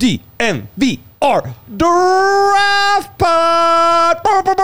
DNVR Draft Pod.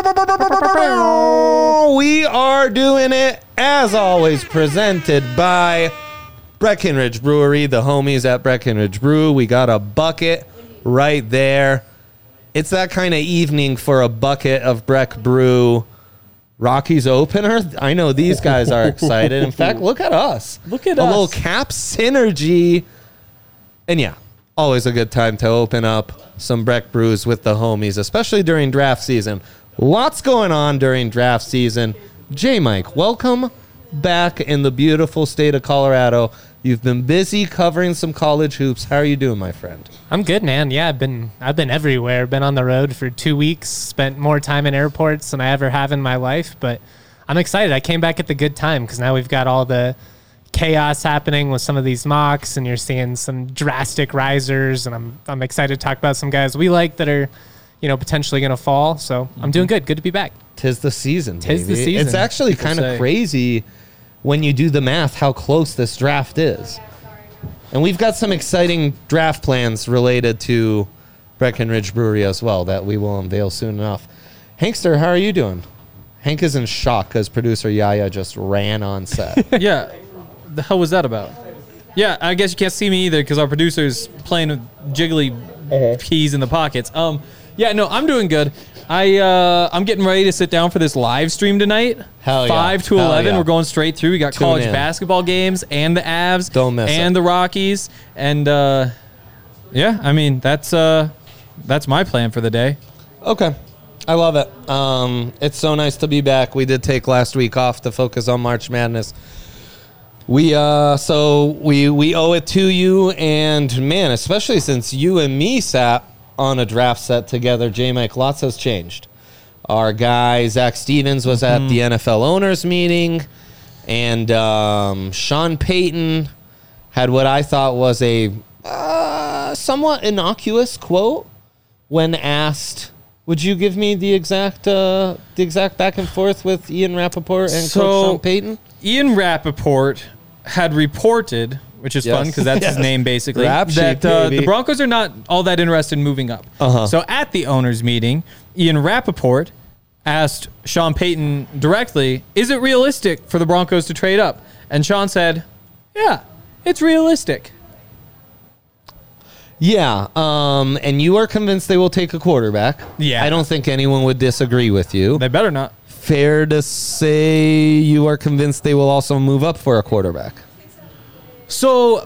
We are doing it, as always, presented by Breckenridge Brewery, the homies at Breckenridge Brew. We got a bucket right there. It's that kind of evening for a bucket of Breck Brew Rockies opener. I know these guys are excited. In fact, look at us. Look at us. us. A little cap synergy. And yeah, always a good time to open up some Breck Brews with the homies, especially during draft season. Lots going on during draft season. J-Mike, welcome back in the beautiful state of Colorado. You've been busy covering some college hoops. How are you doing, my friend? I'm good, man. Yeah, I've been everywhere. Been on the road for 2 weeks. Spent more time in airports than I ever have in my life. But I'm excited. I came back at the good time because now we've got all the chaos happening with some of these mocks, and you're seeing some drastic risers. And I'm excited to talk about some guys we like that are, potentially going to fall. So I'm doing good. Good to be back. Tis the season. Tis the season. It's actually kind of crazy when you do the math how close this draft is. And we've got some exciting draft plans related to Breckenridge Brewery as well that we will unveil soon enough. Hankster, how are you doing? Hank is in shock because producer Yaya just ran on set. Yeah, the hell was that about? Yeah, I guess you can't see me either because our producer's playing with jiggly peas in the pockets. Yeah, no, I'm doing good. I'm getting ready to sit down for this live stream tonight. Hell yeah. 5 to 11. Yeah. We're going straight through. We got Tune college in. basketball games and the Avs. Don't miss and it. the Rockies. And, yeah, I mean, that's my plan for the day. Okay. I love it. It's so nice to be back. We did take last week off to focus on March Madness. We owe it to you, and man, especially since you and me sat on a draft set together, J-Mike, lots has changed. Our guy, Zach Stevens, was at the NFL owners meeting, and Sean Payton had what I thought was a somewhat innocuous quote when asked, would you give me the exact back and forth with Ian Rappaport and Coach Sean Payton? Ian Rappaport had reported, which is fun because that's his name basically, that the Broncos are not all that interested in moving up. So at the owners meeting, Ian Rappaport asked Sean Payton directly, is it realistic for the Broncos to trade up? And Sean said, yeah, it's realistic. Yeah, and you are convinced they will take a quarterback. Yeah. I don't think anyone would disagree with you. They better not. Fair to say you are convinced they will also move up for a quarterback. So,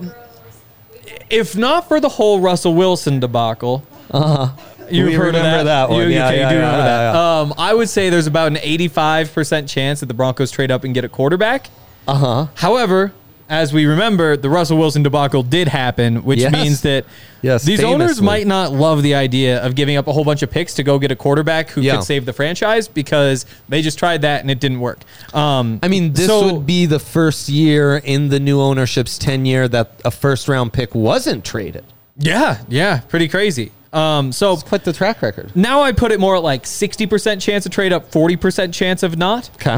if not for the whole Russell Wilson debacle, you've heard of that one. You do remember that. Yeah. I would say there's about an 85% chance that the Broncos trade up and get a quarterback. However, as we remember, the Russell Wilson debacle did happen, which means that these owners might not love the idea of giving up a whole bunch of picks to go get a quarterback who could save the franchise because they just tried that and it didn't work. I mean, this would be the first year in the new ownership's tenure that a first-round pick wasn't traded. Yeah, pretty crazy. So it's quite the track record. Now I put it more at like 60% chance of trade up, 40% chance of not. Okay.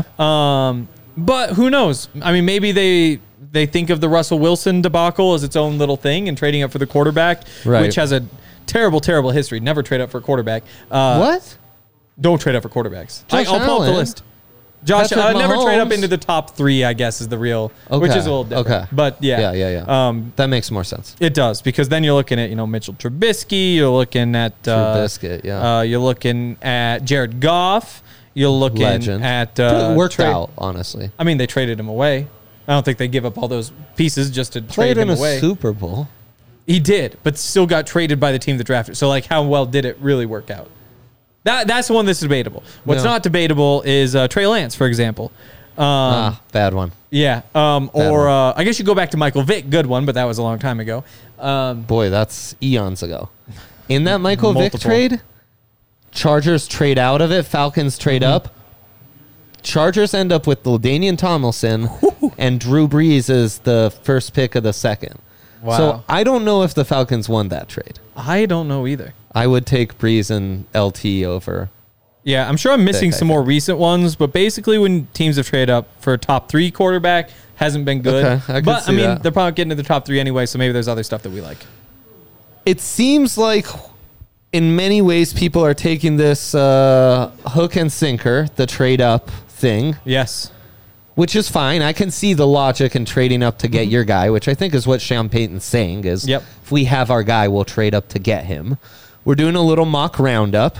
But who knows? I mean, maybe they think of the Russell Wilson debacle as its own little thing and trading up for the quarterback, which has a terrible, terrible history. Never trade up for a quarterback. What? Don't trade up for quarterbacks. Josh I'll pull up the Allen. list. Josh, Patrick never trade up Mahomes. into the top 3, I guess, is the real, which is a little different. Okay. But yeah. That makes more sense. It does, because then you're looking at, Mitchell Trubisky, you're looking at Trubisky, you're looking at Jared Goff, you're looking Legend. at it worked out, honestly. I mean, they traded him away. I don't think they give up all those pieces just to trade him away. Played in a Super Bowl. He did, but still got traded by the team that drafted. So, how well did it really work out? That's the one that's debatable. What's not debatable is Trey Lance, for example. Bad one. Yeah. I guess you go back to Michael Vick, good one, but that was a long time ago. Boy, that's eons ago. In that Michael Vick Multiple. trade, Chargers trade out of it, Falcons trade up. Chargers end up with LaDainian Tomlinson, and Drew Brees is the first pick of the second. Wow. So I don't know if the Falcons won that trade. I don't know either. I would take Brees and LT over. Yeah, I'm sure I'm missing some more recent ones, but basically when teams have traded up for a top 3 quarterback, hasn't been good. Okay, I but, see that. they're probably getting to the top 3 anyway, so maybe there's other stuff that we like. it seems like in many ways people are taking this hook and sinker, the trade up thing. Yes. Which is fine. I can see the logic in trading up to get your guy, which I think is what Sean Payton's saying is if we have our guy, we'll trade up to get him. We're doing a little mock roundup.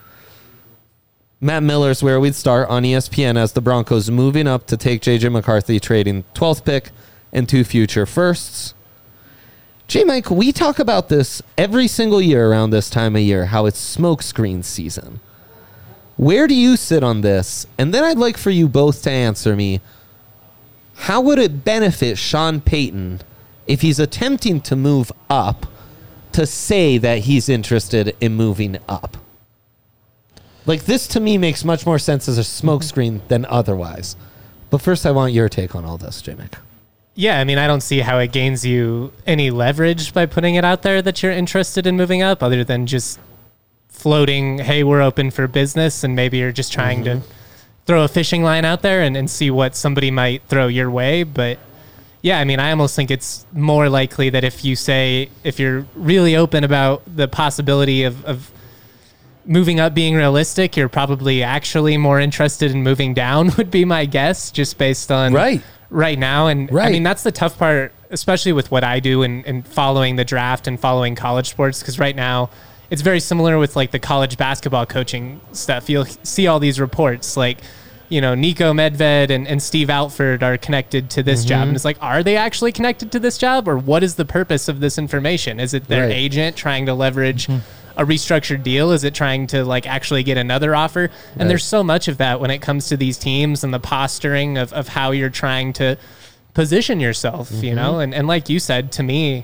Matt Miller's where we'd start on ESPN as the Broncos moving up to take J.J. McCarthy, trading 12th pick and 2 future firsts. J-Mike, we talk about this every single year around this time of year, how it's smokescreen season. Where do you sit on this? And then I'd like for you both to answer me. How would it benefit Sean Payton if he's attempting to move up to say that he's interested in moving up? Like, this to me makes much more sense as a smokescreen than otherwise. But first, I want your take on all this, J-Mac. Yeah, I mean, I don't see how it gains you any leverage by putting it out there that you're interested in moving up, other than just floating, hey, we're open for business, and maybe you're just trying to throw a fishing line out there and see what somebody might throw your way. But yeah, I mean, I almost think it's more likely that if you're really open about the possibility of moving up being realistic, you're probably actually more interested in moving down, would be my guess, just based on right now. And I mean, that's the tough part, especially with what I do and following the draft and following college sports, because right now it's very similar with like the college basketball coaching stuff. You'll see all these reports like, you know, Nico Medved and Steve Altford are connected to this job. And it's like, are they actually connected to this job? Or what is the purpose of this information? Is it their agent trying to leverage a restructured deal? Is it trying to like actually get another offer? And there's so much of that when it comes to these teams and the posturing of how you're trying to position yourself, you know? And like you said, to me,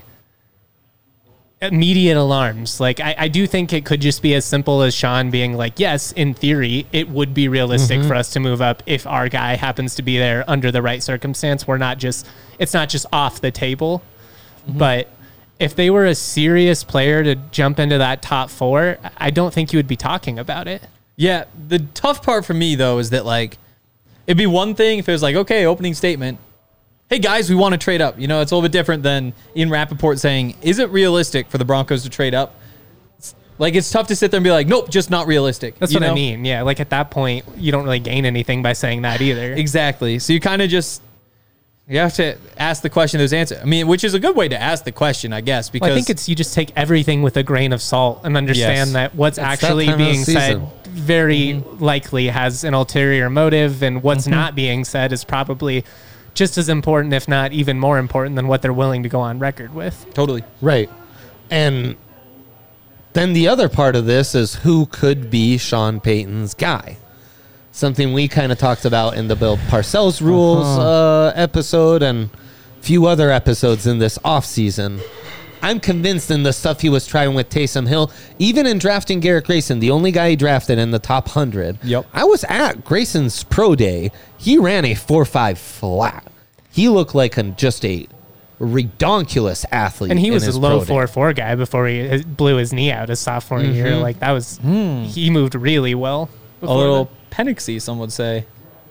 immediate alarms. Like, I do think it could just be as simple as Sean being like, yes, in theory, it would be realistic for us to move up if our guy happens to be there under the right circumstance. It's not just off the table. But if they were a serious player to jump into that top 4, I don't think you would be talking about it. Yeah. The tough part for me, though, is that, like, it'd be one thing if it was like, okay, opening statement, hey, guys, we want to trade up. You know, it's a little bit different than Ian Rappaport saying, is it realistic for the Broncos to trade up? It's tough to sit there and be like, nope, just not realistic. That's what I mean. Yeah, like at that point, you don't really gain anything by saying that either. Exactly. So you kind of you have to ask the question, there's answer. I mean, which is a good way to ask the question, I guess, because I think you just take everything with a grain of salt and understand that what's actually being said very likely has an ulterior motive, and what's not being said is probably just as important, if not even more important, than what they're willing to go on record with. Totally. Right. And then the other part of this is who could be Sean Payton's guy. Something we kind of talked about in the Bill Parcells Rules episode and a few other episodes in this offseason. I'm convinced in the stuff he was trying with Taysom Hill, even in drafting Garrett Grayson, the only guy he drafted in the top 100. Yep. I was at Grayson's pro day. He ran a 4.5 flat. He looked like just a redonkulous athlete. And he was a low 4.4 guy before he blew his knee out his sophomore year. Like, that was, he moved really well. A little Penixy, some would say.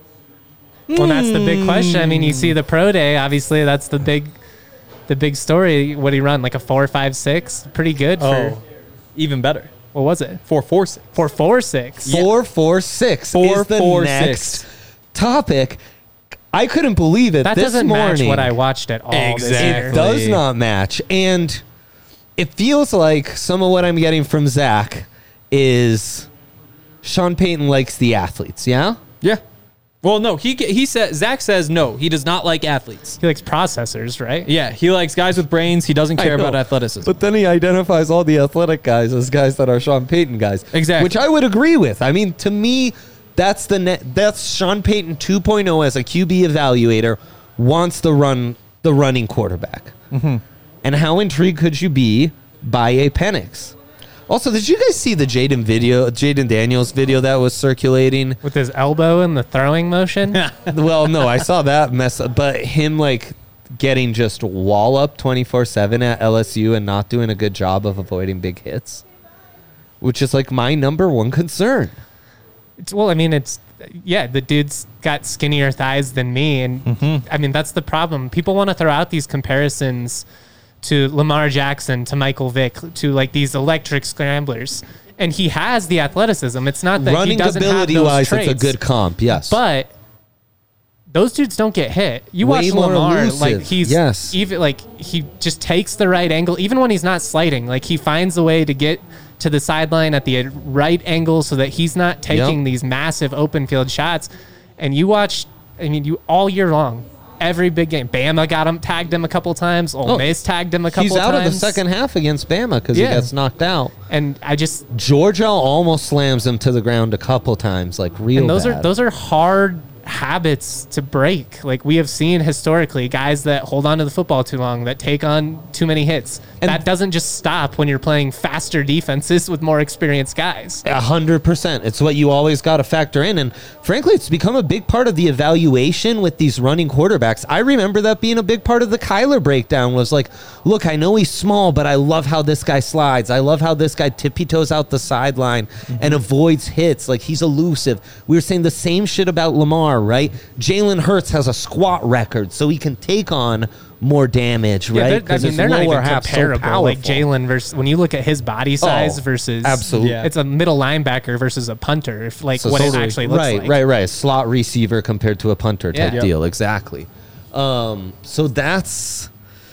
Well, that's the big question. I mean, you see the pro day, obviously that's the big story. What did he run? Like a 4.56? Pretty good for even better. What was it? 4.46. 4.46. 4.46 is the next topic. I couldn't believe it. That this doesn't morning, match what I watched at all. Exactly. It does not match. And it feels like some of what I'm getting from Zach is Sean Payton likes the athletes, yeah? Yeah. Well, no, he said, Zach says no, he does not like athletes. He likes processors, right? Yeah, he likes guys with brains. He doesn't care about athleticism. But then he identifies all the athletic guys as guys that are Sean Payton guys. Exactly. Which I would agree with. I mean, to me, that's Sean Payton 2.0 as a QB evaluator wants the running quarterback. And how intrigued could you be by a Penix? Also, did you guys see the Jaden Daniels video that was circulating? With his elbow in the throwing motion? Well, no, I saw that mess up. But him, like, getting just wall up 24/7 at LSU and not doing a good job of avoiding big hits, which is, like, my number one concern. The dude's got skinnier thighs than me. And, I mean, that's the problem. People want to throw out these comparisons to Lamar Jackson, to Michael Vick, to like these electric scramblers. And he has the athleticism. It's not that running he doesn't have those ability-wise, traits. it's a good comp, yes. But those dudes don't get hit. You Way watch more Lamar, elusive. like he's even like he just takes the right angle, even when he's not sliding. Like he finds a way to get to the sideline at the right angle so that he's not taking these massive open field shots. And you watch, I mean, you all year long, every big game. Bama tagged him a couple times. Ole Miss tagged him a couple times. He's out of the second half against Bama because he gets knocked out. And Georgia almost slams him to the ground a couple times, like real bad. Those are hard habits to break. Like we have seen historically, guys that hold on to the football too long, that take on too many hits. And that doesn't just stop when you're playing faster defenses with more experienced guys. 100%. It's what you always got to factor in. And frankly, it's become a big part of the evaluation with these running quarterbacks. I remember that being a big part of the Kyler breakdown was like, look, I know he's small, but I love how this guy slides. I love how this guy tippy-toes out the sideline and avoids hits. Like he's elusive. We were saying the same shit about Lamar, right? Jalen Hurts has a squat record, so he can take on more damage, right? Because they're not even comparable. So like Jalen versus when you look at his body size versus absolutely, it's a middle linebacker versus a punter. If like so what it actually looks like, right, a slot receiver compared to a punter type deal, exactly. So that's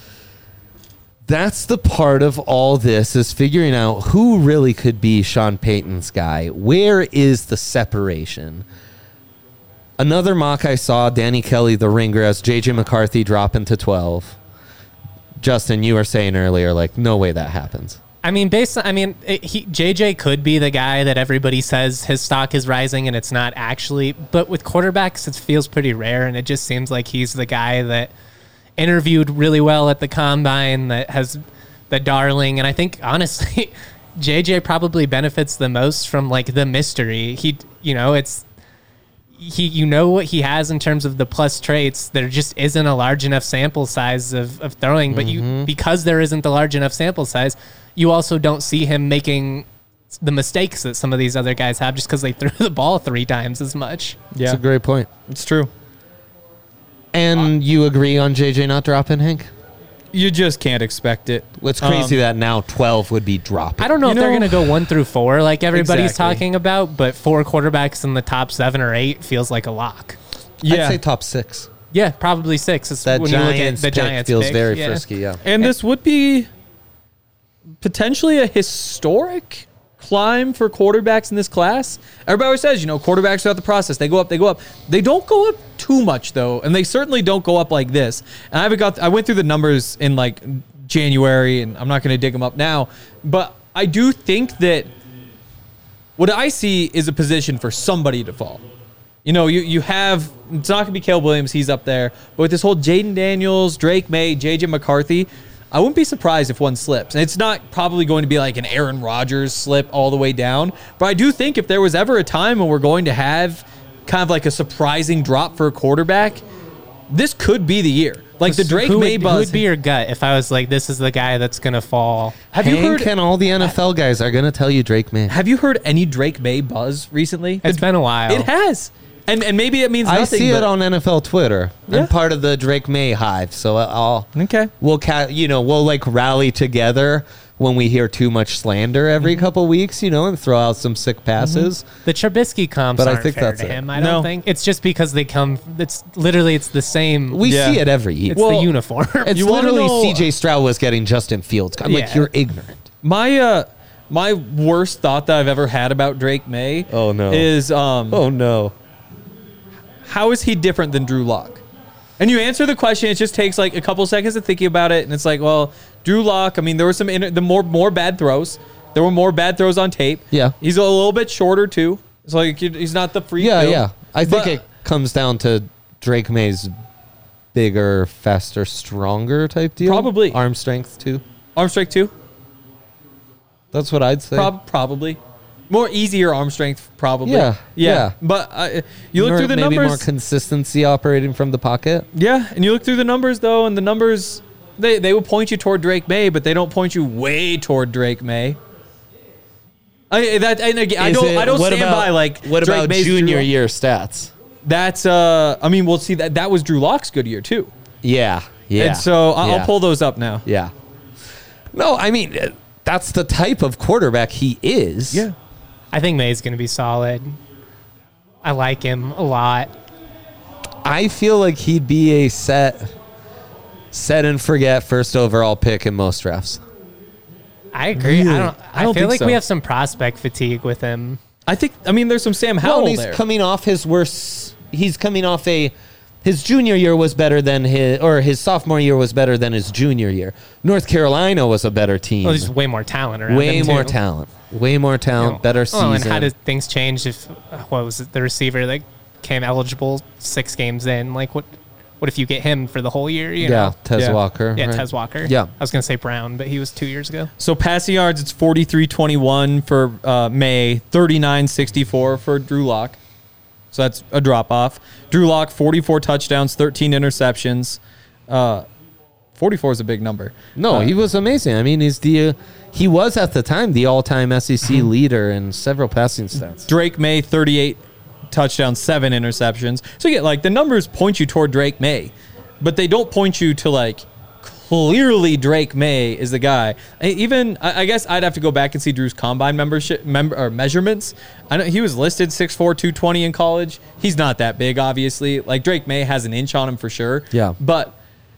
the part of all this is figuring out who really could be Sean Payton's guy. Where is the separation? Another mock I saw, Danny Kelly, the ringer, as J.J. McCarthy dropping to 12. Justin, you were saying earlier, like, no way that happens. I mean, JJ could be the guy that everybody says his stock is rising and it's not actually. But with quarterbacks, it feels pretty rare, and it just seems like he's the guy that interviewed really well at the combine, that has the darling. And I think, honestly, JJ probably benefits the most from, like, the mystery. You know what he has in terms of the plus traits. There just isn't a large enough sample size of throwing, but because there isn't the large enough sample size, you also don't see him making the mistakes that some of these other guys have just because they threw the ball 3 times as much. Yeah, that's a great point. It's true. And you agree on JJ not dropping, Hank? You just can't expect it. It's crazy that now 12 would be dropping. I don't know if they're going to go 1 through 4 like everybody's talking about, but 4 quarterbacks in the top 7 or 8 feels like a lock. Yeah. I'd say top 6. Yeah, probably 6. It's that when Giants you look at the Giants feels pick. very frisky, yeah. And this would be potentially a historic climb for quarterbacks in this class. Everybody always says, quarterbacks throughout the process, they go up. They don't go up too much, though, and they certainly don't go up like this. And I went through the numbers in, like, January, and I'm not going to dig them up now, but I do think that what I see is a position for somebody to fall. You have, it's not going to be Caleb Williams, he's up there, but with this whole Jaden Daniels, Drake May, J.J. McCarthy, I wouldn't be surprised if one slips. And it's not probably going to be like an Aaron Rodgers slip all the way down. But I do think if there was ever a time when we're going to have kind of like a surprising drop for a quarterback, this could be the year. Like the Drake May buzz. Who would be your gut if I was like, this is the guy that's going to fall? Have you heard? And all the NFL guys are going to tell you Drake May. Have you heard any Drake May buzz recently? It's been a while. It has. And maybe it means nothing. I see it on NFL Twitter. I'm part of the Drake May hive, so we'll like rally together when we hear too much slander every couple weeks, and throw out some sick passes. The Trubisky comps aren't fair to him. I don't think it's just because they come. It's the same. We see it every year. It's the uniform. It's literally C.J. Stroud was getting Justin Fields. I'm like, you're ignorant. My worst thought that I've ever had about Drake May. Is how is he different than Drew Lock? And you answer the question, it just takes like a couple seconds of thinking about it, and it's like, well, Drew Lock, I mean, there were some more bad throws. There were more bad throws on tape. Yeah. He's a little bit shorter, too. It's like he's not the freak. Yeah. I think it comes down to Drake May's bigger, faster, stronger type deal. Probably. Arm strength, too. Arm strength, too? That's what I'd say. Probably. More easier arm strength, probably. Yeah. But you look through the numbers. Maybe more consistency operating from the pocket. Yeah, and you look through the numbers, though, and the numbers, they will point you toward Drake May, but they don't point you way toward Drake May. I don't stand by, like, what Drake about May's junior year stats? That's, we'll see that was Drew Lock's good year, too. Yeah. And so I'll pull those up now. Yeah. No, I mean, that's the type of quarterback he is. Yeah. I think May's going to be solid. I like him a lot. I feel like he'd be a set and forget first overall pick in most drafts. I agree. Really? I feel like we have some prospect fatigue with him. I mean, there's some Sam Howell he's there. coming off his worst. He's coming off his junior year was better than his sophomore year was better than his junior year. North Carolina was a better team. Well, there's way more talent around. Way more talent. Better season. And how did things change if what was it, the receiver that came eligible 6 games in? Like what if you get him for the whole year? You know? Tez Walker. Yeah, right? Tez Walker. Yeah. I was going to say Brown, but he was 2 years ago. So passing yards, it's 43-21 for May, 39-64 for Drew Lock. So that's a drop-off. Drew Lock, 44 touchdowns, 13 interceptions. 44 is a big number. No, he was amazing. I mean, he was at the time the all-time SEC leader in several passing stats. Drake May, 38 touchdowns, 7 interceptions. So you get the numbers point you toward Drake May, but they don't point you to clearly Drake May is the guy. I guess I'd have to go back and see Drew's combine measurements. I know he was listed 6'4", 220 in college. He's not that big, obviously. Drake May has an inch on him for sure. Yeah. But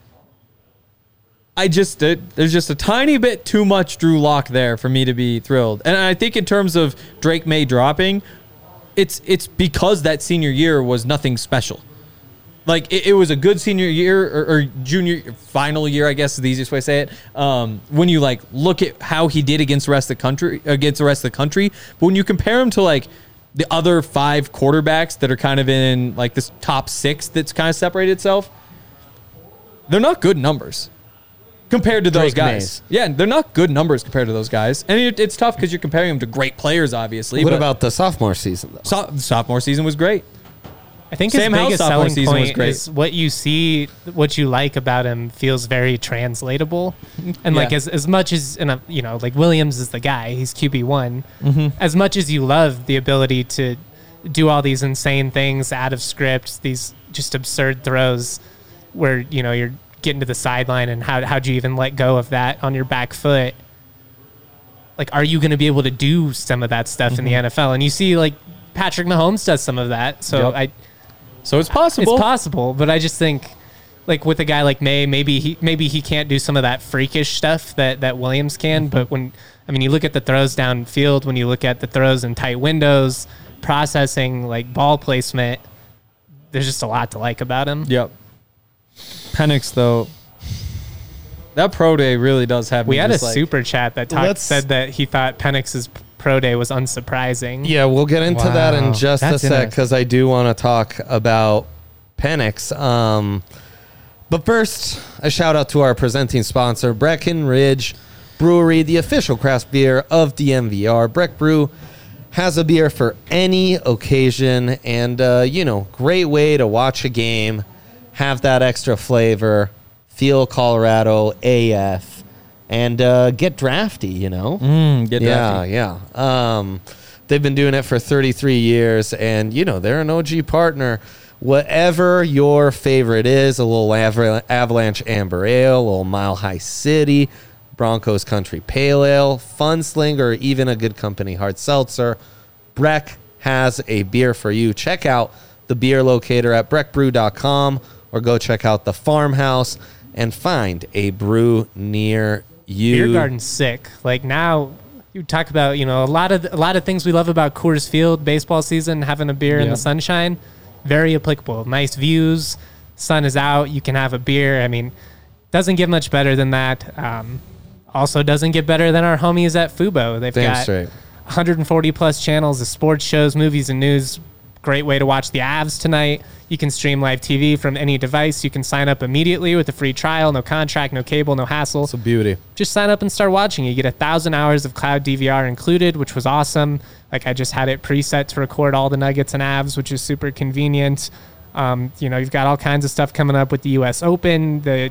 there's just a tiny bit too much Drew Lock there for me to be thrilled. And I think in terms of Drake May dropping, it's because that senior year was nothing special. It was a good senior year or junior final year, I guess is the easiest way to say it. When you look at how he did against the rest of the country, but when you compare him to the other 5 quarterbacks that are kind of in this top 6 that's kind of separated itself, they're not good numbers compared to those guys. Yeah, they're not good numbers compared to those guys. And it's tough because you're comparing them to great players, obviously. What about the sophomore season, though? Sophomore season was great. I think his biggest selling point is what you see, what you like about him feels very translatable. And as much as, Williams is the guy, he's QB1. Mm-hmm. As much as you love the ability to do all these insane things out of script, these just absurd throws where, you're getting to the sideline and how'd you even let go of that on your back foot? Are you going to be able to do some of that stuff in the NFL? And you see Patrick Mahomes does some of that. So So it's possible. It's possible, but I just think, with a guy like May, maybe he can't do some of that freakish stuff that Williams can. But you look at the throws downfield, when you look at the throws in tight windows, processing, ball placement, there's just a lot to like about him. Yep. Penix, though, that pro day really does have. We had a super chat that said that he thought Penix's pro day was unsurprising. Yeah, we'll get into that in just a sec because I do want to talk about Penix. But first, a shout out to our presenting sponsor, Breckenridge Brewery, the official craft beer of DNVR. Breck Brew has a beer for any occasion, and great way to watch a game, have that extra flavor, feel Colorado AF. And get drafty, Get drafty. Yeah. They've been doing it for 33 years, and, they're an OG partner. Whatever your favorite is, a little Avalanche Amber Ale, a little Mile High City, Broncos Country Pale Ale, Fun Sling, or even a Good Company Hard Seltzer, Breck has a beer for you. Check out the beer locator at breckbrew.com or go check out the Farmhouse and find a brew near you. Beer garden's sick. Now you talk about, a lot of things we love about Coors Field, baseball season, having a beer in the sunshine, very applicable. Nice views, sun is out, you can have a beer. Doesn't get much better than that. Also doesn't get better than our homies at Fubo. They've got 140 plus channels of sports shows, movies, and news. Great way to watch the Avs tonight. You can stream live TV from any device. You can sign up immediately with a free trial, no contract, no cable, no hassle. It's a beauty. Just sign up and start watching. You get 1,000 hours of cloud DVR included, which was awesome. I just had it preset to record all the Nuggets and Avs, which is super convenient. You've got all kinds of stuff coming up with the U.S. Open, the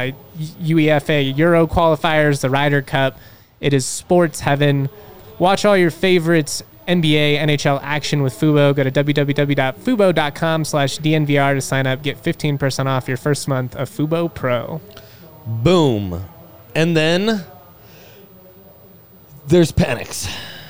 UEFA Euro qualifiers, the Ryder Cup. It is sports heaven. Watch all your favorites. NBA, NHL action with Fubo. Go to www.fubo.com/DNVR to sign up. Get 15% off your first month of Fubo Pro. Boom. And then There's Penix.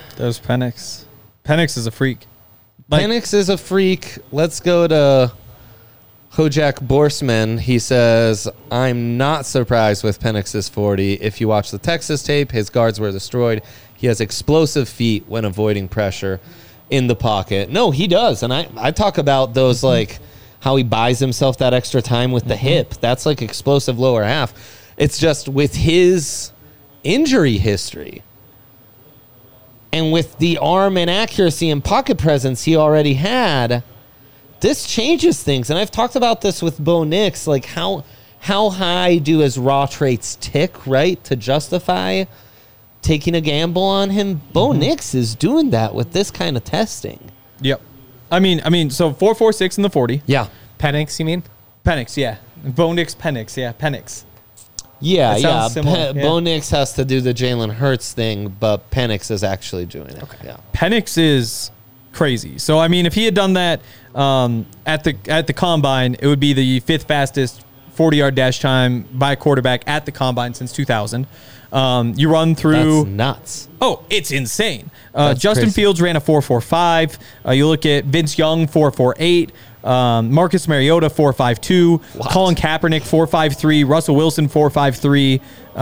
Penix is a freak. Penix is a freak. Let's go to Hojak Borsman. He says, I'm not surprised with Penix's 40. If you watch the Texas tape, his guards were destroyed. He has explosive feet when avoiding pressure in the pocket. No, he does. And I talk about those, like, how he buys himself that extra time with the hip. That's like explosive lower half. It's just with his injury history and with the arm and accuracy and pocket presence he already had, this changes things. And I've talked about this with Bo Nix, like how high do his raw traits tick, right, to justify taking a gamble on him? Bo Nix is doing that with this kind of testing. Yep. I mean, so 4.46 in the 40. Yeah. Penix, you mean? Penix, yeah. Bo Nix, Penix, yeah, Penix. Yeah. Bo Nix has to do the Jalen Hurts thing, but Penix is actually doing it. Okay. Yeah. Penix is crazy. So, I mean, if he had done that at the combine, it would be the 5th fastest 40-yard dash time by a quarterback at the combine since 2000. You run through... That's nuts. Oh, it's insane. Justin Fields ran a 4.45. You look at Vince Young, 4.48. Marcus Mariota, 4.52. Colin Kaepernick, 4.53. Russell Wilson, 4.53.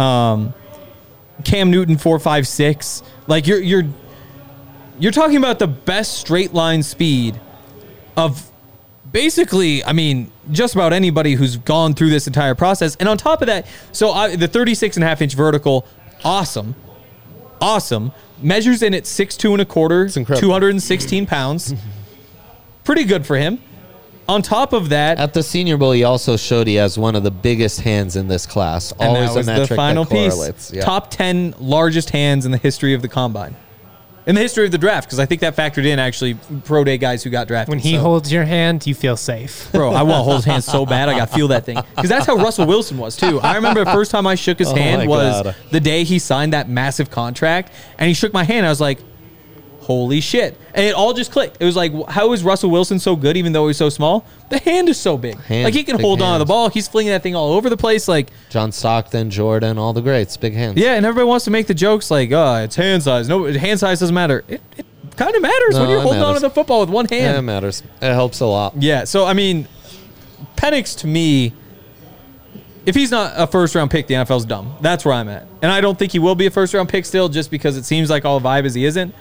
Cam Newton, 4.56. Like, you're talking about the best straight line speed of basically, I mean, just about anybody who's gone through this entire process. And on top of that, the 36.5-inch vertical, awesome. Measures in at 6'2 and a quarter, 216 pounds. Pretty good for him. On top of that, at the Senior Bowl, he also showed he has one of the biggest hands in this class. Always a metric that correlates. Yeah. Top 10 largest hands in the history of the combine. In the history of the draft, because I think that factored in, actually, pro day guys who got drafted. When he holds your hand, you feel safe. Bro, I want to hold his hand so bad, I got to feel that thing. Because that's how Russell Wilson was, too. I remember the first time I shook his hand was the day he signed that massive contract, and he shook my hand. I was like, holy shit. And it all just clicked. It was like, how is Russell Wilson so good even though he's so small? The hand is so big. Like, he can hold on to the ball. He's flinging that thing all over the place. Like John Stockton, Jordan, all the greats. Big hands. Yeah, and everybody wants to make the jokes like, it's hand size. No, hand size doesn't matter. It kind of matters when you're holding on to the football with one hand. Yeah, it matters. It helps a lot. Yeah, so, I mean, Penix, to me, if he's not a first-round pick, the NFL's dumb. That's where I'm at. And I don't think he will be a first-round pick still just because it seems like all the vibe is he isn't.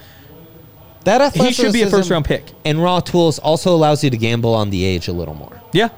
He should be a first-round pick. And raw tools also allows you to gamble on the age a little more. Yeah.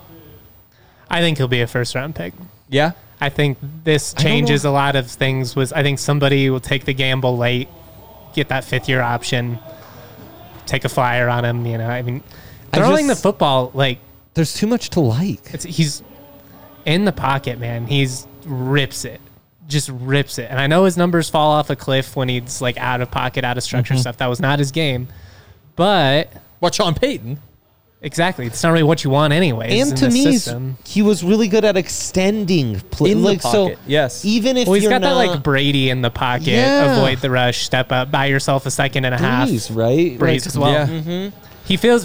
I think he'll be a first-round pick. Yeah? I think this changes a lot of things. I think somebody will take the gamble late, get that 5th-year option, take a flyer on him. You know, I mean, throwing the football, like... There's too much to like. He's in the pocket, man. Rips it. Just rips it. And I know his numbers fall off a cliff when he's like out of pocket, out of structure stuff. That was not his game. But what, Sean Payton? Exactly. It's not really what you want anyway. And to me, he was really good at extending play. In the pocket, yes. Even if he's got that like Brady in the pocket, avoid the rush, step up, buy yourself a second and a half. Right? Breeze as well. Yeah. Mm-hmm. He feels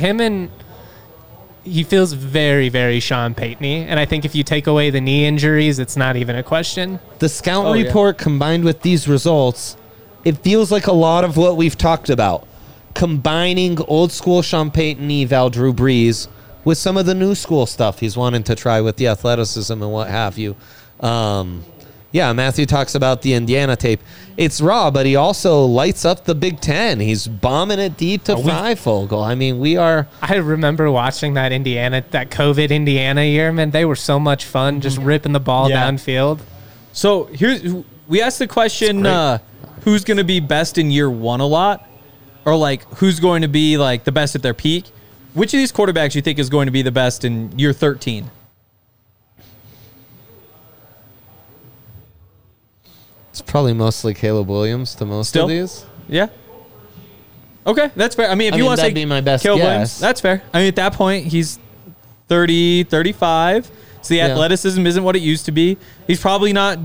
he feels very, very Sean Payton-y. And I think if you take away the knee injuries, it's not even a question. The scout report combined with these results, it feels like a lot of what we've talked about. Combining old school Sean Payton-y, Drew Brees, with some of the new school stuff he's wanting to try with the athleticism and what have you. Matthew talks about the Indiana tape. It's raw, but he also lights up the Big Ten. He's bombing it deep to Fogel. I mean, I remember watching that COVID Indiana year, man. They were so much fun, just ripping the ball downfield. So we asked the question, who's going to be best in year one a lot? Or like, who's going to be like the best at their peak? Which of these quarterbacks do you think is going to be the best in year 13? It's probably mostly Caleb Williams to most of these. Yeah. Okay, that's fair. I mean, if you want to say be my best Caleb guess. Williams, that's fair. I mean, at that point, he's 30, 35. So the athleticism isn't what it used to be. He's probably not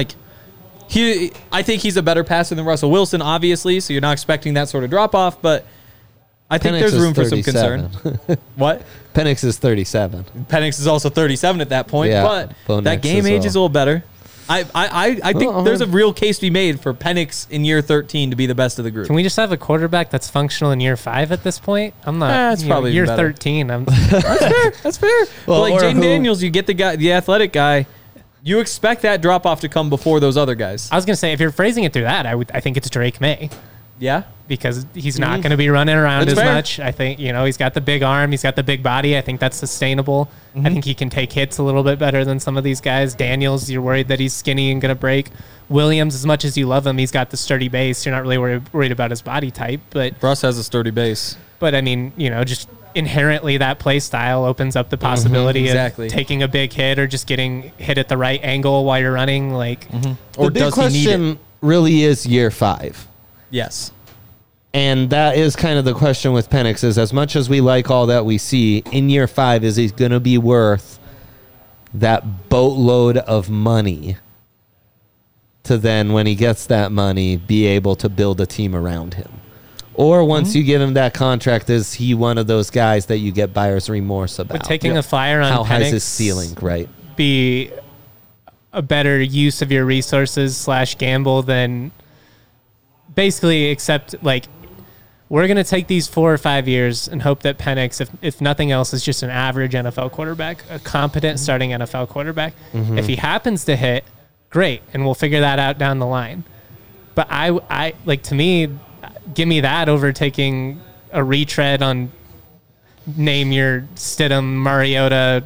I think he's a better passer than Russell Wilson, obviously, so you're not expecting that sort of drop-off, but I think there's room for some concern. What? Penix is 37. Penix is also 37 at that point, but Bo that Nix game age is a little better. I think there's a real case to be made for Penix in year 13 to be the best of the group. Can we just have a quarterback that's functional in year 5 at this point? I'm not. That's probably year better. 13. That's fair. Well, like Jaden Daniels, you get the athletic guy. You expect that drop off to come before those other guys. I was gonna say, if you're phrasing it through that, I think it's Drake May. Yeah, because he's not going to be running around as much. I think, he's got the big arm. He's got the big body. I think that's sustainable. I think he can take hits a little bit better than some of these guys. Daniels, you're worried that he's skinny and going to break. Williams, as much as you love him, he's got the sturdy base. You're not really worried about his body type. But Russ has a sturdy base. But, I mean, just inherently that play style opens up the possibility of taking a big hit or just getting hit at the right angle while you're running. Or the big question really is year 5. Yes. And that is kind of the question with Penix is as much as we like all that we see, in year 5, is he going to be worth that boatload of money to then, when he gets that money, be able to build a team around him? Or once you give him that contract, is he one of those guys that you get buyer's remorse about? But taking a flyer on how Penix high is his ceiling, right? Be a better use of your resources / gamble than basically accept, we're going to take these 4 or 5 years and hope that Penix, if nothing else, is just an average NFL quarterback, a competent starting NFL quarterback. If he happens to hit, great, and we'll figure that out down the line. But to me, give me that over taking a retread on name your Stidham, Mariota,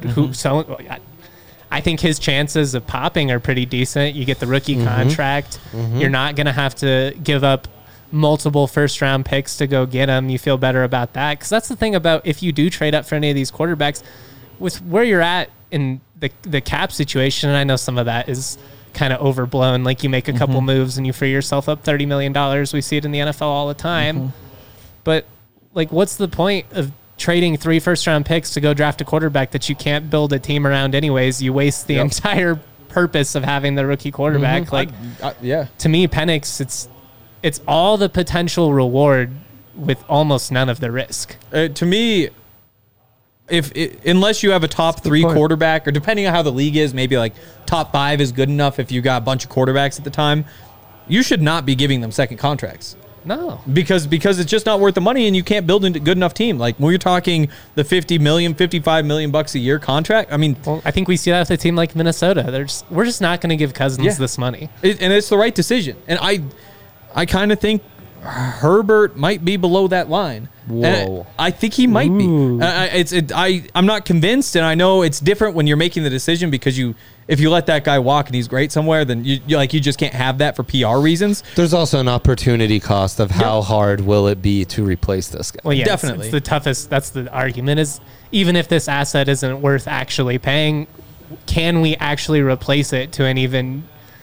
I think his chances of popping are pretty decent. You get the rookie contract. You're not going to have to give up multiple first-round picks to go get him. You feel better about that. Because that's the thing about if you do trade up for any of these quarterbacks, with where you're at in the cap situation, and I know some of that is kind of overblown. You make a couple moves and you free yourself up $30 million. We see it in the NFL all the time. But, what's the point of trading 3 first-round picks to go draft a quarterback that you can't build a team around anyways? You waste the entire purpose of having the rookie quarterback. To me, Penix, it's all the potential reward with almost none of the risk. To me, unless you have a top 3 quarterback, or depending on how the league is, maybe top 5 is good enough if you got a bunch of quarterbacks at the time, you should not be giving them second contracts. No. Because it's just not worth the money, and you can't build a good enough team. When you're talking the $50 million, $55 million bucks a year contract, I think we see that with a team like Minnesota. We're just not going to give Cousins this money. And it's the right decision. And I kind of think Herbert might be below that line. Whoa. I think he might be. I'm not convinced, and I know it's different when you're making the decision because if you let that guy walk and he's great somewhere, then you just can't have that for PR reasons. There's also an opportunity cost of how hard will it be to replace this guy. Well, yeah, definitely. It's the toughest. That's the argument is even if this asset isn't worth actually paying, can we actually replace it to an even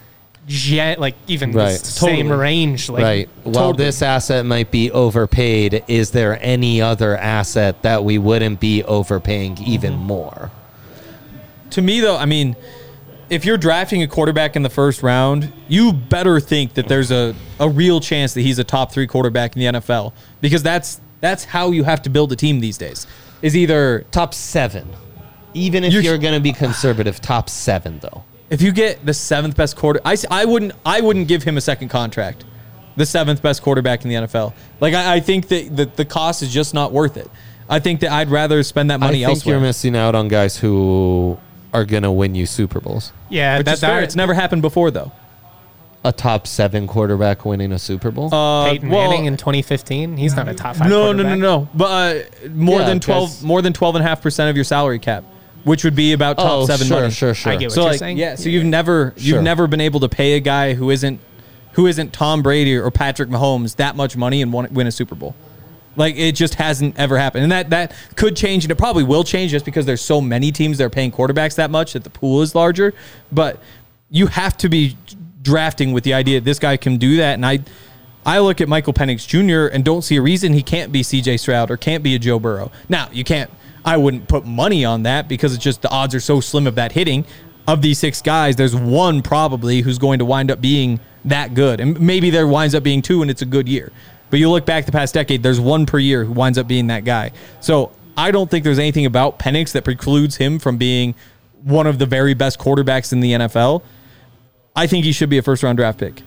the same range? Right. While this asset might be overpaid, is there any other asset that we wouldn't be overpaying even more? To me, though, if you're drafting a quarterback in the first round, you better think that there's a real chance that he's a top 3 quarterback in the NFL, because that's how you have to build a team these days. Is either top 7, even if you're going to be conservative. Top 7, though. If you get the 7th best I wouldn't give him a second contract. The 7th best quarterback in the NFL. I think that the cost is just not worth it. I think that I'd rather spend that money elsewhere. I think you're missing out on guys who are going to win you Super Bowls. Yeah, that's fair. It's never happened before, though. A top 7 quarterback winning a Super Bowl? Peyton Manning in 2015. He's not a top 5 quarterback. No. But more than 12.5% of your salary cap, which would be about top 7 money. Sure. I get what you're saying. Yeah, so you've never been able to pay a guy who isn't Tom Brady or Patrick Mahomes that much money and win a Super Bowl. It just hasn't ever happened. And that could change, and it probably will change just because there's so many teams that are paying quarterbacks that much that the pool is larger. But you have to be drafting with the idea that this guy can do that. And I look at Michael Penix Jr. and don't see a reason he can't be C.J. Stroud or can't be a Joe Burrow. Now, I wouldn't put money on that because it's just the odds are so slim of that hitting. Of these 6 guys, there's one probably who's going to wind up being that good. And maybe there winds up being 2 and it's a good year. But you look back the past decade, there's 1 per year who winds up being that guy. So I don't think there's anything about Penix that precludes him from being one of the very best quarterbacks in the NFL. I think he should be a first-round draft pick.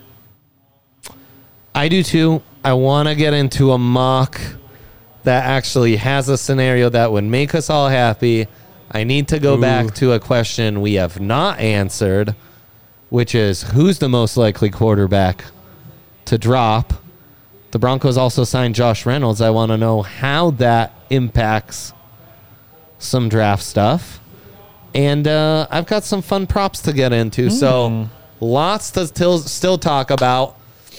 I do too. I want to get into a mock that actually has a scenario that would make us all happy. I need to go back to a question we have not answered, which is who's the most likely quarterback to drop? The Broncos also signed Josh Reynolds. I want to know how that impacts some draft stuff. And I've got some fun props to get into. So lots to still talk about.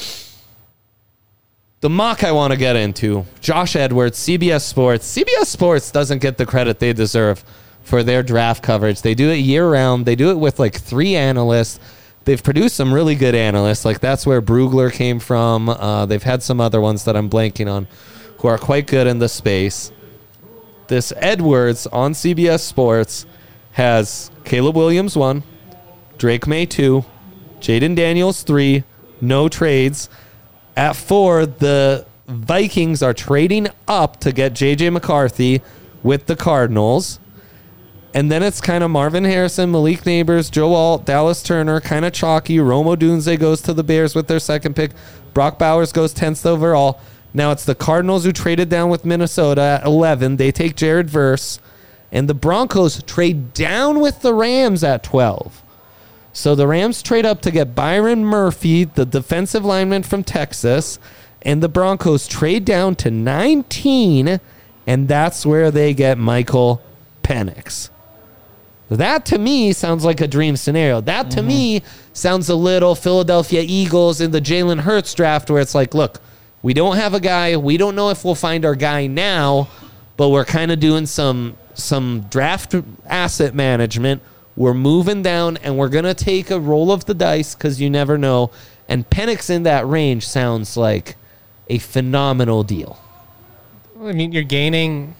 The mock I want to get into, Josh Edwards, CBS Sports. CBS Sports doesn't get the credit they deserve for their draft coverage. They do it year-round. They do it with like 3 analysts. They've produced some really good analysts. Like that's where Brugler came from. They've had some other ones that I'm blanking on who are quite good in the space. This Edwards on CBS Sports has Caleb Williams 1, Drake May 2, Jaden Daniels 3, no trades. At 4, the Vikings are trading up to get J.J. McCarthy with the Cardinals. And then it's kind of Marvin Harrison, Malik Neighbors, Joe Alt, Dallas Turner, kind of chalky. Rome Odunze goes to the Bears with their 2nd pick. Brock Bowers goes 10th overall. Now it's the Cardinals who traded down with Minnesota at 11. They take Jared Verse. And the Broncos trade down with the Rams at 12. So the Rams trade up to get Byron Murphy, the defensive lineman from Texas, and the Broncos trade down to 19, and that's where they get Michael Penix. That to me sounds like a dream scenario. That to me sounds a little Philadelphia Eagles in the Jalen Hurts draft where it's like, look, we don't have a guy. We don't know if we'll find our guy now, but we're kind of doing some draft asset management. We're moving down, and we're going to take a roll of the dice because you never know. And Penix in that range sounds like a phenomenal deal. I mean, you're gaining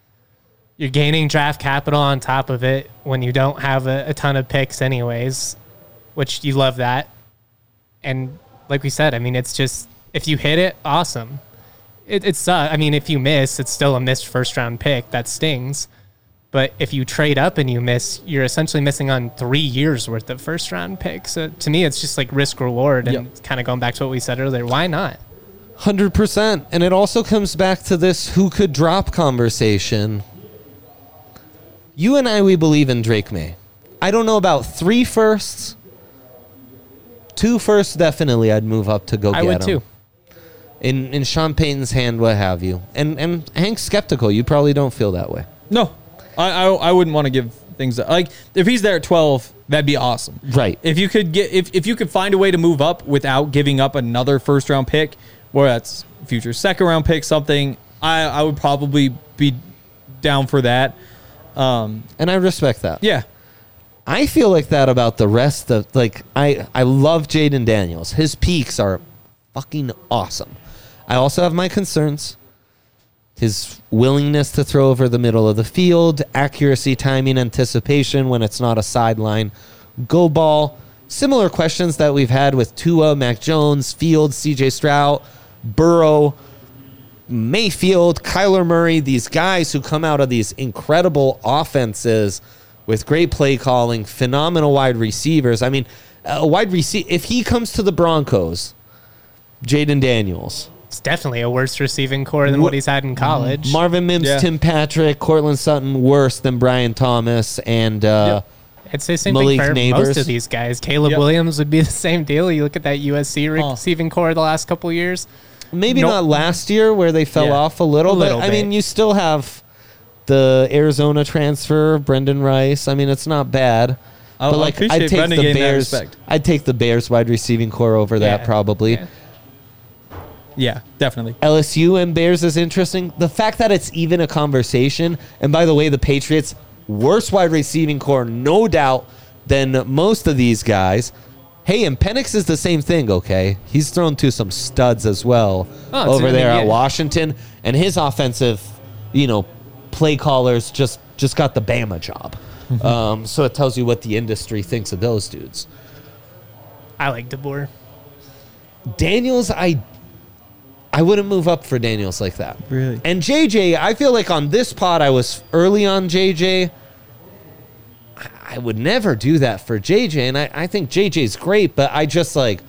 draft capital on top of it when you don't have a ton of picks anyways, which you love that. And like we said, I mean, it's just if you hit it, awesome. It's I mean, if you miss, it's still a missed first-round pick. That stings. But if you trade up and you miss, you're essentially missing on 3 years worth of first-round picks. So to me, it's just like risk-reward. And kind of going back to what we said earlier, why not? 100%. And it also comes back to this who could drop conversation. You and I, we believe in Drake May. I don't know about 3 firsts. 2 firsts, definitely I'd move up to go get him. I would too. In Sean Payton's hand, what have you. And Hank's skeptical. You probably don't feel that way. No. I wouldn't want to give things like if he's there at 12, that'd be awesome. Right. If you could if you could find a way to move up without giving up another first round pick, or that's future second round pick, something, I would probably be down for that. And I respect that. Yeah. I feel like that about the rest of I love Jaden Daniels. His peaks are fucking awesome. I also have my concerns. His willingness to throw over the middle of the field, accuracy, timing, anticipation when it's not a sideline go ball. Similar questions that we've had with Tua, Mac Jones, Fields, CJ Stroud, Burrow, Mayfield, Kyler Murray, these guys who come out of these incredible offenses with great play calling, phenomenal wide receivers. I mean, a wide receiver, if he comes to the Broncos, Jaden Daniels, it's definitely a worse receiving core than what he's had in college. Marvin Mims, Tim Patrick, Cortland Sutton, worse than Brian Thomas, and I'd say same Malik thing for Neighbors. Most of these guys. Caleb Williams would be the same deal. You look at that USC receiving core the last couple of years. Maybe not last year where they fell off a little bit. I mean, you still have the Arizona transfer, Brendan Rice. I mean, it's not bad. But I'd take the Bears. I'd take the Bears wide receiving core over that probably. Yeah, definitely. LSU and Bears is interesting. The fact that it's even a conversation, and by the way, the Patriots, worst wide receiving core, no doubt, than most of these guys. Hey, and Penix is the same thing, okay? He's thrown to some studs as well over there at Washington, and his offensive, play callers just got the Bama job. So it tells you what the industry thinks of those dudes. I like DeBoer. Daniels, I wouldn't move up for Daniels like that. Really? And JJ, I feel like on this pod, I was early on JJ. I would never do that for JJ. And I think JJ's great, but I just like,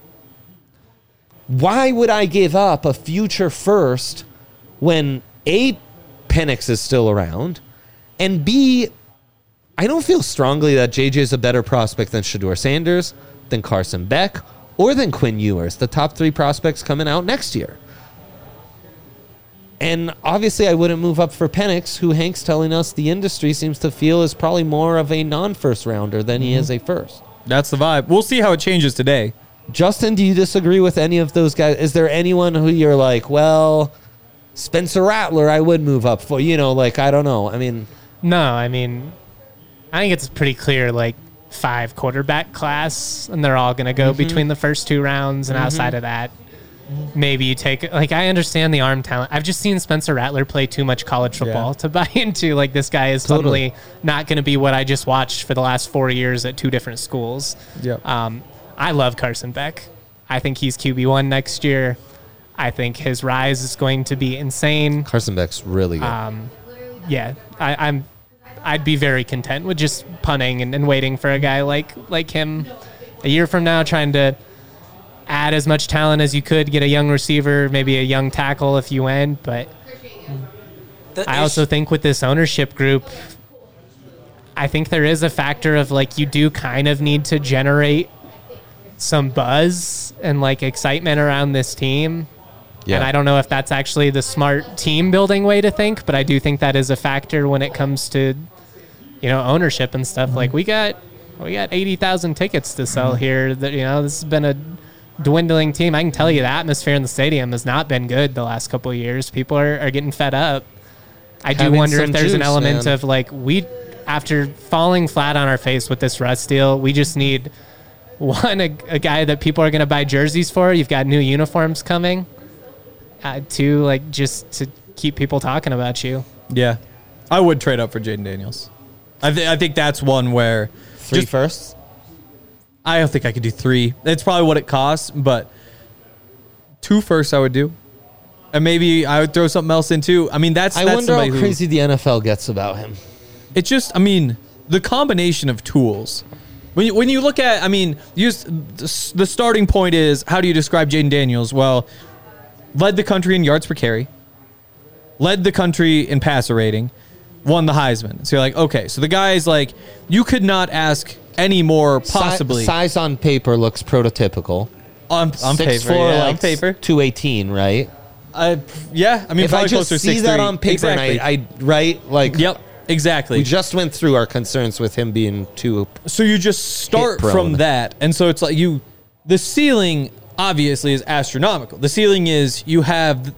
why would I give up a future first when A, Penix is still around, and B, I don't feel strongly that JJ is a better prospect than Shedeur Sanders, than Carson Beck, or than Quinn Ewers, the top 3 prospects coming out next year. And obviously I wouldn't move up for Penix, who Hank's telling us the industry seems to feel is probably more of a non-first rounder than he is a first. That's the vibe. We'll see how it changes today. Justin, do you disagree with any of those guys? Is there anyone who you're like, well, Spencer Rattler, I would move up for, like, I don't know. I mean, no, I mean, I think it's pretty clear, like 5 quarterback class, and they're all going to go between the first 2 rounds. And outside of that, maybe you take, like, I understand the arm talent. I've just seen Spencer Rattler play too much college football to buy into, like, this guy is totally not going to be what I just watched for the last 4 years at 2 different schools. I love Carson Beck. I think he's QB1 next year. I think his rise is going to be insane. Carson Beck's really good. Yeah, I'd be very content with just punting and waiting for a guy like him a year from now, trying to add as much talent as you could, get a young receiver, maybe a young tackle if you went. But I also think with this ownership group, I think there is a factor of, like, you do kind of need to generate some buzz and, like, excitement around this team. Yeah. And I don't know if that's actually the smart team building way to think, but I do think that is a factor when it comes to, ownership and stuff. Like, we got 80,000 tickets to sell here. That, this has been a dwindling team. I can tell you the atmosphere in the stadium has not been good the last couple of years. People are getting fed up. I do wonder if there's an element of, like, after falling flat on our face with this Russ deal, we just need one, a guy that people are going to buy jerseys for. You've got new uniforms coming. 2, like, just to keep people talking about you. Yeah. I would trade up for Jayden Daniels. I think that's one where 3 firsts? I don't think I could do 3. It's probably what it costs, but 2 firsts I would do. And maybe I would throw something else in too. I mean, I wonder how crazy the NFL gets about him. It's just, I mean, the combination of tools. When you look at, I mean, the starting point is, how do you describe Jayden Daniels? Well, led the country in yards per carry, led the country in passer rating, won the Heisman. So you're like, okay, so the guy is like, you could not ask any more possibly. Size on paper looks prototypical. On paper, on paper. 218, right? Yeah, I mean, if I just see that on paper, exactly. and right, like, yep, exactly. We just went through our concerns with him being too. So you just start from that, and so it's like the ceiling obviously is astronomical. The ceiling is you have,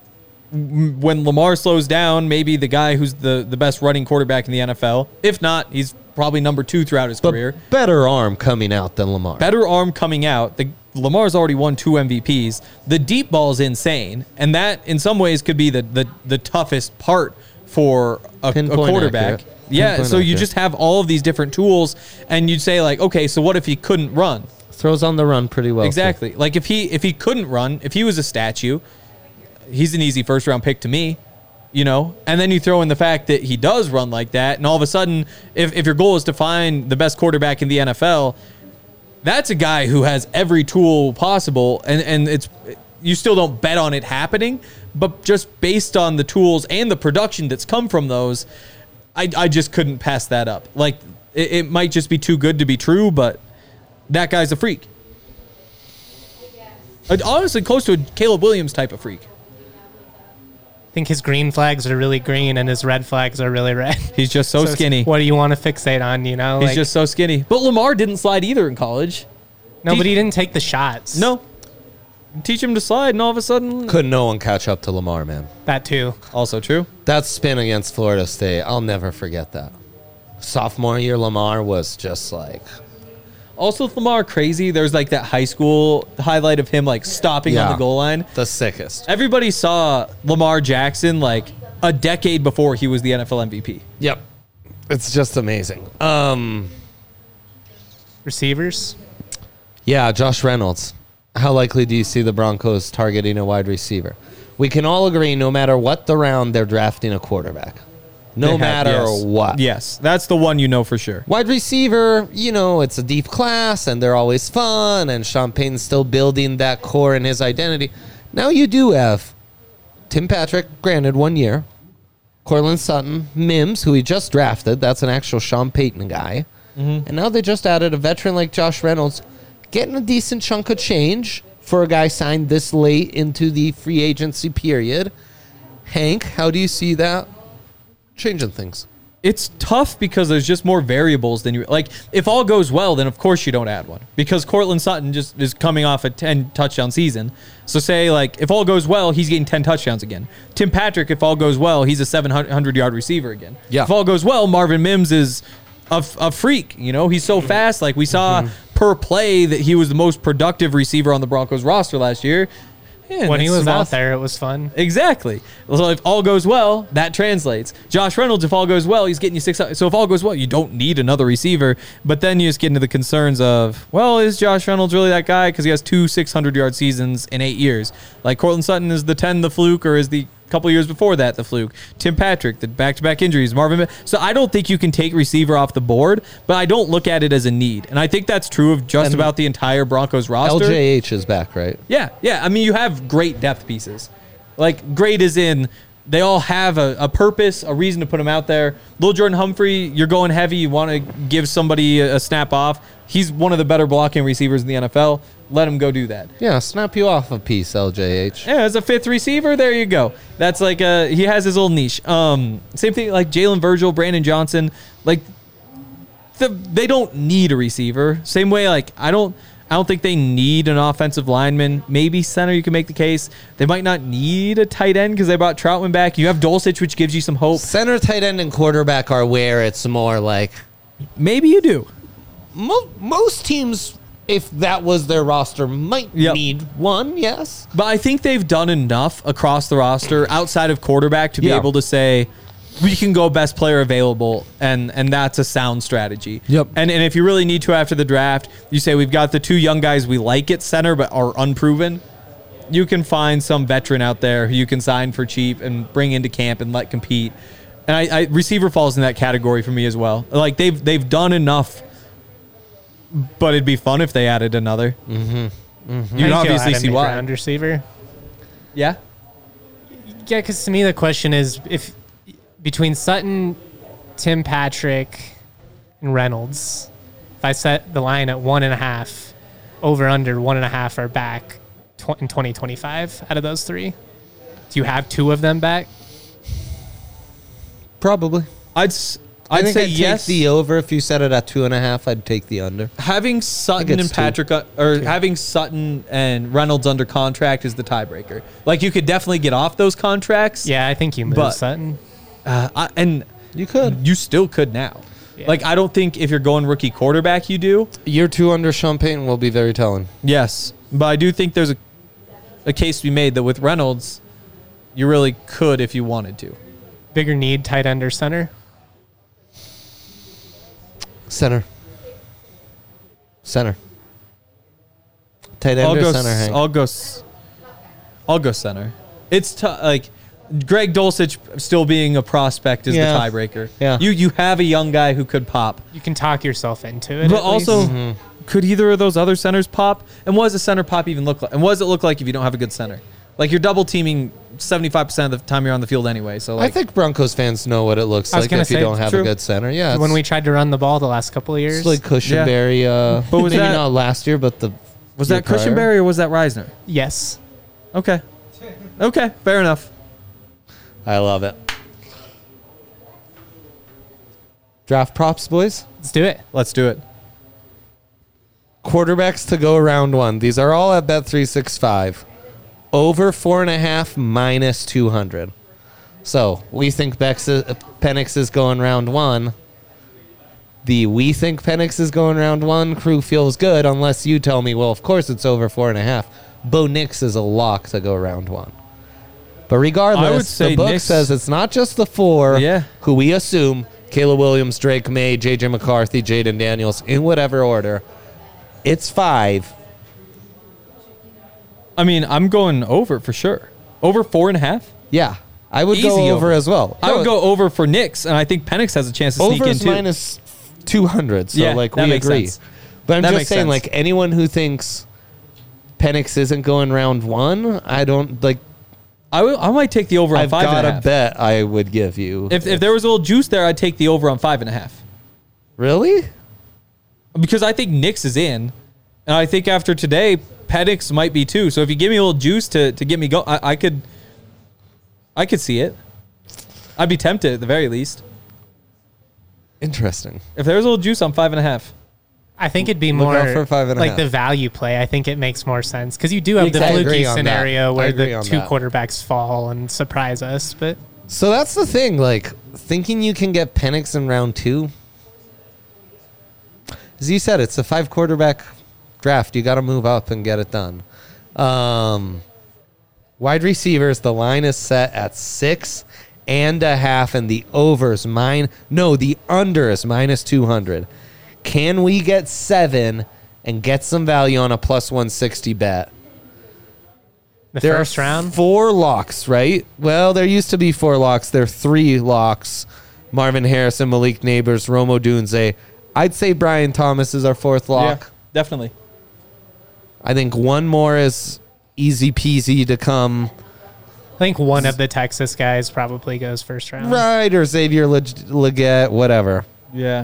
when Lamar slows down, maybe the guy who's the best running quarterback in the NFL. If not, he's probably number 2 throughout his career. Better arm coming out than Lamar. Better arm coming out. Lamar's already won 2 MVPs. The deep ball is insane, and that in some ways could be the toughest part for a quarterback. Accurate. Yeah, so you just have all of these different tools, and you'd say, like, okay, so what if he couldn't run? Throws on the run pretty well. Exactly. Too. Like, if he couldn't run, if he was a statue, he's an easy first-round pick to me, And then you throw in the fact that he does run like that, and all of a sudden, if your goal is to find the best quarterback in the NFL, that's a guy who has every tool possible, and you still don't bet on it happening, but just based on the tools and the production that's come from those, I just couldn't pass that up. Like, it might just be too good to be true, but that guy's a freak. Honestly, close to a Caleb Williams type of freak. I think his green flags are really green and his red flags are really red. He's just so skinny. What do you want to fixate on, He's just so skinny. But Lamar didn't slide either in college. No, but he didn't take the shots. No. Teach him to slide, and all of a sudden... Could no one catch up to Lamar, man. That too. Also true. That spin against Florida State, I'll never forget that. Sophomore year, Lamar was just like... Also, with Lamar, crazy. There's like that high school highlight of him like stopping on the goal line. The sickest. Everybody saw Lamar Jackson like a decade before he was the NFL MVP. Yep. It's just amazing. Receivers? Yeah, Josh Reynolds. How likely do you see the Broncos targeting a wide receiver? We can all agree no matter what the round, they're drafting a quarterback. no matter what. Yes, that's the one you know for sure. Wide receiver, it's a deep class, and they're always fun, and Sean Payton's still building that core in his identity. Now you do have Tim Patrick, granted 1 year, Courtland Sutton, Mims, who he just drafted. That's an actual Sean Payton guy. And now they just added a veteran like Josh Reynolds, getting a decent chunk of change for a guy signed this late into the free agency period. Hank, how do you see that changing things? It's tough because there's just more variables than you like. If all goes well, then of course you don't add one because Courtland Sutton just is coming off a 10 touchdown season. So say if all goes well, he's getting 10 touchdowns again. Tim Patrick, if all goes well, he's a 700-yard receiver again. Yeah. If all goes well, Marvin Mims is a freak. He's so fast. Like we saw per play that he was the most productive receiver on the Broncos roster last year. Yeah, when he was out there, it was fun. Exactly. So if all goes well, that translates. Josh Reynolds, if all goes well, he's getting you 6. So if all goes well, you don't need another receiver. But then you just get into the concerns of, well, is Josh Reynolds really that guy? Because he has 2 600-yard seasons in 8 years. Like Courtland Sutton is the 10 the fluke, or is the couple years before that the fluke. Tim Patrick, the back-to-back injuries. Marvin. So I don't think you can take receiver off the board, but I don't look at it as a need. And I think that's true of just about the entire Broncos roster. LJH is back, right? Yeah. I mean, you have great depth pieces. Like, great as in they all have a purpose, a reason to put them out there. Lil Jordan Humphrey, you're going heavy. You want to give somebody a snap off. He's one of the better blocking receivers in the NFL. Let him go do that. Yeah, snap you off a piece, LJH. Yeah, as a 5th receiver, there you go. That's like he has his old niche. Same thing like Jalen Virgil, Brandon Johnson. Like they don't need a receiver. Same way, like I don't think they need an offensive lineman. Maybe center, you can make the case. They might not need a tight end because they brought Troutman back. You have Dulcich, which gives you some hope. Center, tight end, and quarterback are where it's more like maybe you do. Most teams, if that was their roster, might need one, yes. But I think they've done enough across the roster outside of quarterback to be able to say, we can go best player available, and that's a sound strategy. Yep. And if you really need to after the draft, you say we've got the 2 young guys we like at center but are unproven. You can find some veteran out there who you can sign for cheap and bring into camp and let compete. And I receiver falls in that category for me as well. Like they've done enough. But it'd be fun if they added another. You can obviously see why. Round receiver. Yeah. Yeah, because to me the question is if between Sutton, Tim Patrick, and Reynolds, if I set the line at 1.5, over under 1.5 are back in 2025 out of those 3. Do you have 2 of them back? Probably. I'd say yes. Take the over. If you set it at 2.5, I'd take the under. Having Sutton and Patrick, having Sutton and Reynolds under contract is the tiebreaker. Like you could definitely get off those contracts. Yeah, I think you move Sutton. And you could. You still could now. Yeah. Like I don't think if you're going rookie quarterback, you do. Year 2 under Sean Payton will be very telling. Yes, but I do think there's a case to be made that with Reynolds, you really could if you wanted to. Bigger need, tight end or center? Center. Tight end or center, Hank? I'll go center. It's like Greg Dulcich still being a prospect is the tiebreaker. Yeah. You have a young guy who could pop. You can talk yourself into it. But also, could either of those other centers pop? And what does a center pop even look like? And what does it look like if you don't have a good center? Like you're double teaming 75% of the time you're on the field anyway. So like, I think Broncos fans know what it looks like if you don't have a good center. Yeah, when we tried to run the ball the last couple of years, it's like Cushenberry. But was maybe that, not last year, but was that Cushenberry or was that Reisner? Yes. Okay, fair enough. I love it. Draft props, boys. Let's do it. Quarterbacks to go round 1. These are all at Bet365. Over 4.5 minus 200. So we think Penix is going round 1. We think Penix is going round 1 crew feels good unless you tell me, well, of course it's over 4.5. Bo Nix is a lock to go round 1. But regardless, the book says it's not just the 4 who we assume, Caleb Williams, Drake May, J.J. McCarthy, Jaden Daniels, in whatever order. It's 5. I mean, I'm going over for sure. Over 4.5? Yeah. I would go over as well. I would go over for Nix, and I think Penix has a chance to sneak in too. Over's -200, so like we agree. Sense. But I'm just saying, like anyone who thinks Penix isn't going round 1, I don't like. I might take the over on 5.5. I've got a bet I would give you. If there was a little juice there, I'd take the over on 5.5. Really? Because I think Nix is in, and I think after today, Penix might be too. So if you give me a little juice to get me go, I could see it. I'd be tempted at the very least. Interesting. If there was a little juice on 5.5. I think it'd be more like the value play. I think it makes more sense because you do have the fluky scenario where the 2 quarterbacks fall and surprise us. But so that's the thing. Like thinking you can get Penix in round 2. As you said, it's a 5 quarterback draft. You got to move up and get it done. Wide receivers, the line is set at 6.5, and the the under is -200. Can we get 7 and get some value on a +160 bet? There first round? 4 locks, right? Well, there used to be 4 locks. There are 3 locks. Marvin Harrison, Malik Neighbors, Rome Odunze. I'd say Brian Thomas is our 4th lock. Yeah, definitely. I think one more is easy peasy to come. I think one of the Texas guys probably goes first round. Right, or Xavier Legette, whatever. Yeah.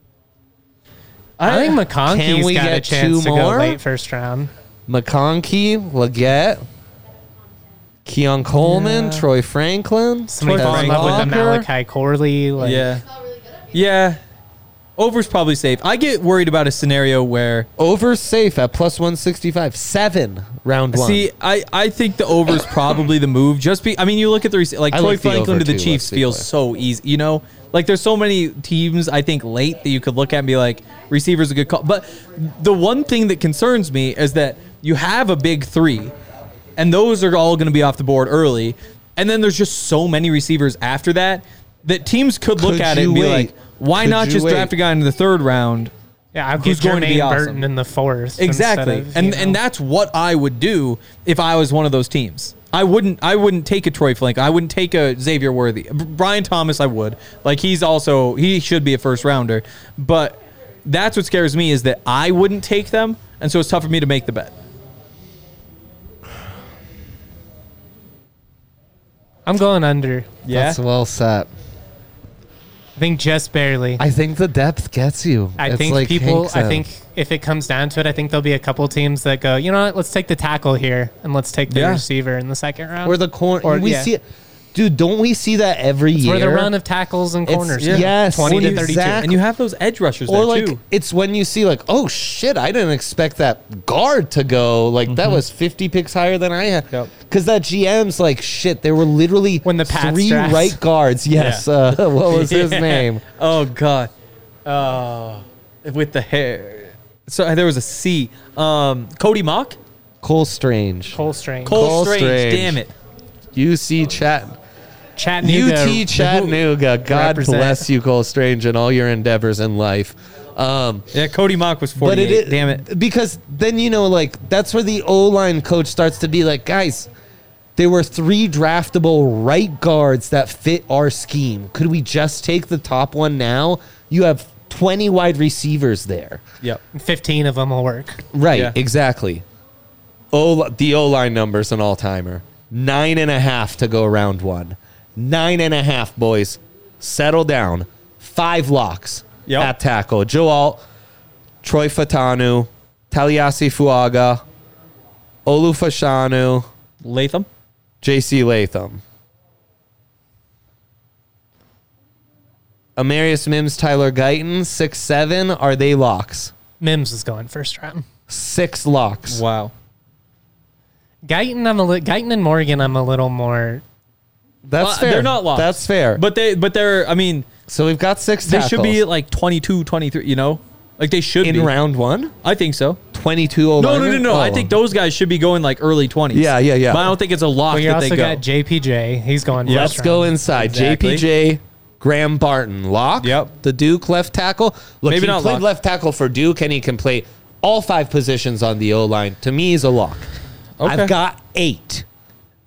I think McConkey's got a chance to go late first round. McConkey, Legette, Keon Coleman, Troy Franklin. Somebody fall in love with the Malachi Corley. Yeah. Over's probably safe. I get worried about a scenario where... Over's safe at +165. 7 round 1. See, I think the over's probably the move. You look at the... Troy Franklin to the Chiefs feels so easy. You know? Like, there's so many teams, I think, late that you could look at and be like, receiver's a good call. But the one thing that concerns me is that you have a big 3, and those are all going to be off the board early. And then there's just so many receivers after that teams could look at it and be like, why not just draft a guy in the 3rd round? Yeah, who's going to be awesome? Burton in the 4th. Exactly. And that's what I would do if I was one of those teams. I wouldn't take a Troy Flink. I wouldn't take a Xavier Worthy. Brian Thomas, I would. Like, he should be a first rounder. But that's what scares me is that I wouldn't take them, and so it's tough for me to make the bet. I'm going under. Yeah? That's well set. I think just barely. I think the depth gets you. I think if it comes down to it, I think there'll be a couple teams that go, you know what, let's take the tackle here and let's take the receiver in the 2nd round. Or the corner. See it. Dude, don't we see that every year? Where the run of tackles and corners. Yes. 20 to 32. And you have those edge rushers there too. It's when you see like, oh shit, I didn't expect that guard to go. Like, that was 50 picks higher than I had. Because that GM's like, shit, there were literally when the Pats 3 draft. right guards. Yes. What was his name? Oh, God. With the hair. So there was a C. Cody Mock? Cole Strange. Cole Strange. Damn it. UC Chattanooga. UT Chattanooga. God bless you, Cole Strange, and all your endeavors in life. Cody Mock was 48. Damn it. Because then, that's where the O-line coach starts to be like, guys, there were 3 draftable right guards that fit our scheme. Could we just take the top one now? You have 20 wide receivers there. Yep. 15 of them will work. Right, exactly. The O-line number's an all-timer. 9.5 to go round 1. 9.5, boys. Settle down. 5 locks at tackle. Joe Alt, Troy Fatanu, Taliasi Fuaga, Olu Fashanu, Latham, JC Latham. Amarius Mims, Tyler Guyton, 6-7. Are they locks? Mims is going first round. 6 locks. Wow. Guyton and Morgan, I'm a little more. That's fair. They're not locks. That's fair. But they're. I mean, so we've got 6 tackles. They should be like 22, 23. You know, like they should in be round 1. I think so. 22 O-linemen? No. I think those guys should be going like early 20s. Yeah. But I don't think it's a lock that they go. You also got JPJ. He's going first Let's go inside. Exactly. JPJ, Graham Barton, lock. Yep. The Duke left tackle. Look, Maybe he played left tackle for Duke, and he can play all 5 positions on the O-line. To me, he's a lock. Okay. I've got 8.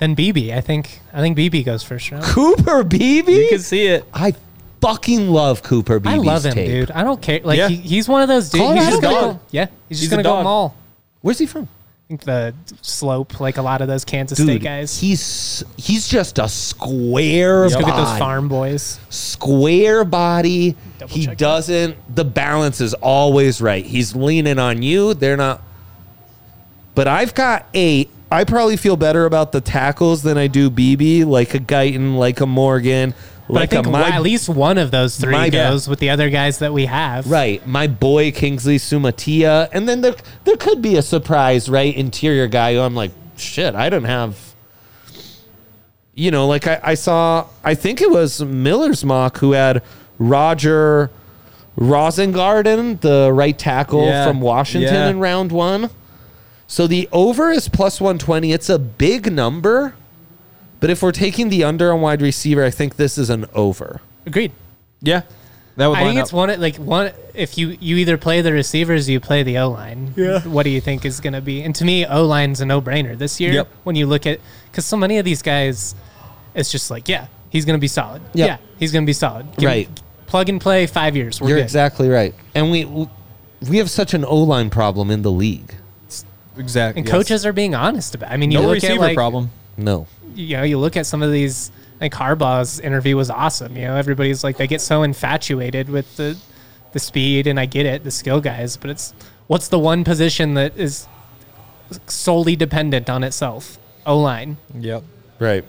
Then Beebe. I think Beebe goes first round. Cooper Beebe? You can see it. I fucking love Cooper Beebe's I love him, tape. dude. I don't care. Like he's one of those dudes. Colorado He's just dog. gonna go, he's just gonna go mall. Where's he from? I think the slope, like a lot of those Kansas Dude, State guys. He's just a square Let's body. go get those farm boys. Square body. He doesn't. The balance is always right. He's leaning on you. They're not. But I've got 8. I probably feel better about the tackles than I do BB, like a Guyton, like a Morgan. But I think at least one of those 3 goes with the other guys that we have. Right. My boy Kingsley Sumatia. And then there could be a surprise, right? Interior guy who I'm like, shit, I don't have. You know, like I saw, I think it was Miller's mock who had Roger Rosengarten, the right tackle from Washington in round 1. So the over is plus 120. It's a big number. But if we're taking the under on wide receiver, I think this is an over. Agreed. Yeah. That would I think it's one if you either play the receivers or you play the O-line. Yeah. What do you think is going to be? And to me, O-line's a no-brainer this year. Yep. When you look at, because so many of these guys, it's just like, he's going to be solid. Yep. Yeah, he's going to be solid. Right. Plug and play, 5 years. You're good. Exactly right. And we have such an O-line problem in the league. Exactly. And coaches are being honest about it. I mean, you look receiver at problem. No. You know, you look at some of these. I think Harbaugh's interview was awesome. You know, everybody's like, they get so infatuated with the speed, and I get it, the skill guys, but what's the one position that is solely dependent on itself? O-line. Yep. Right.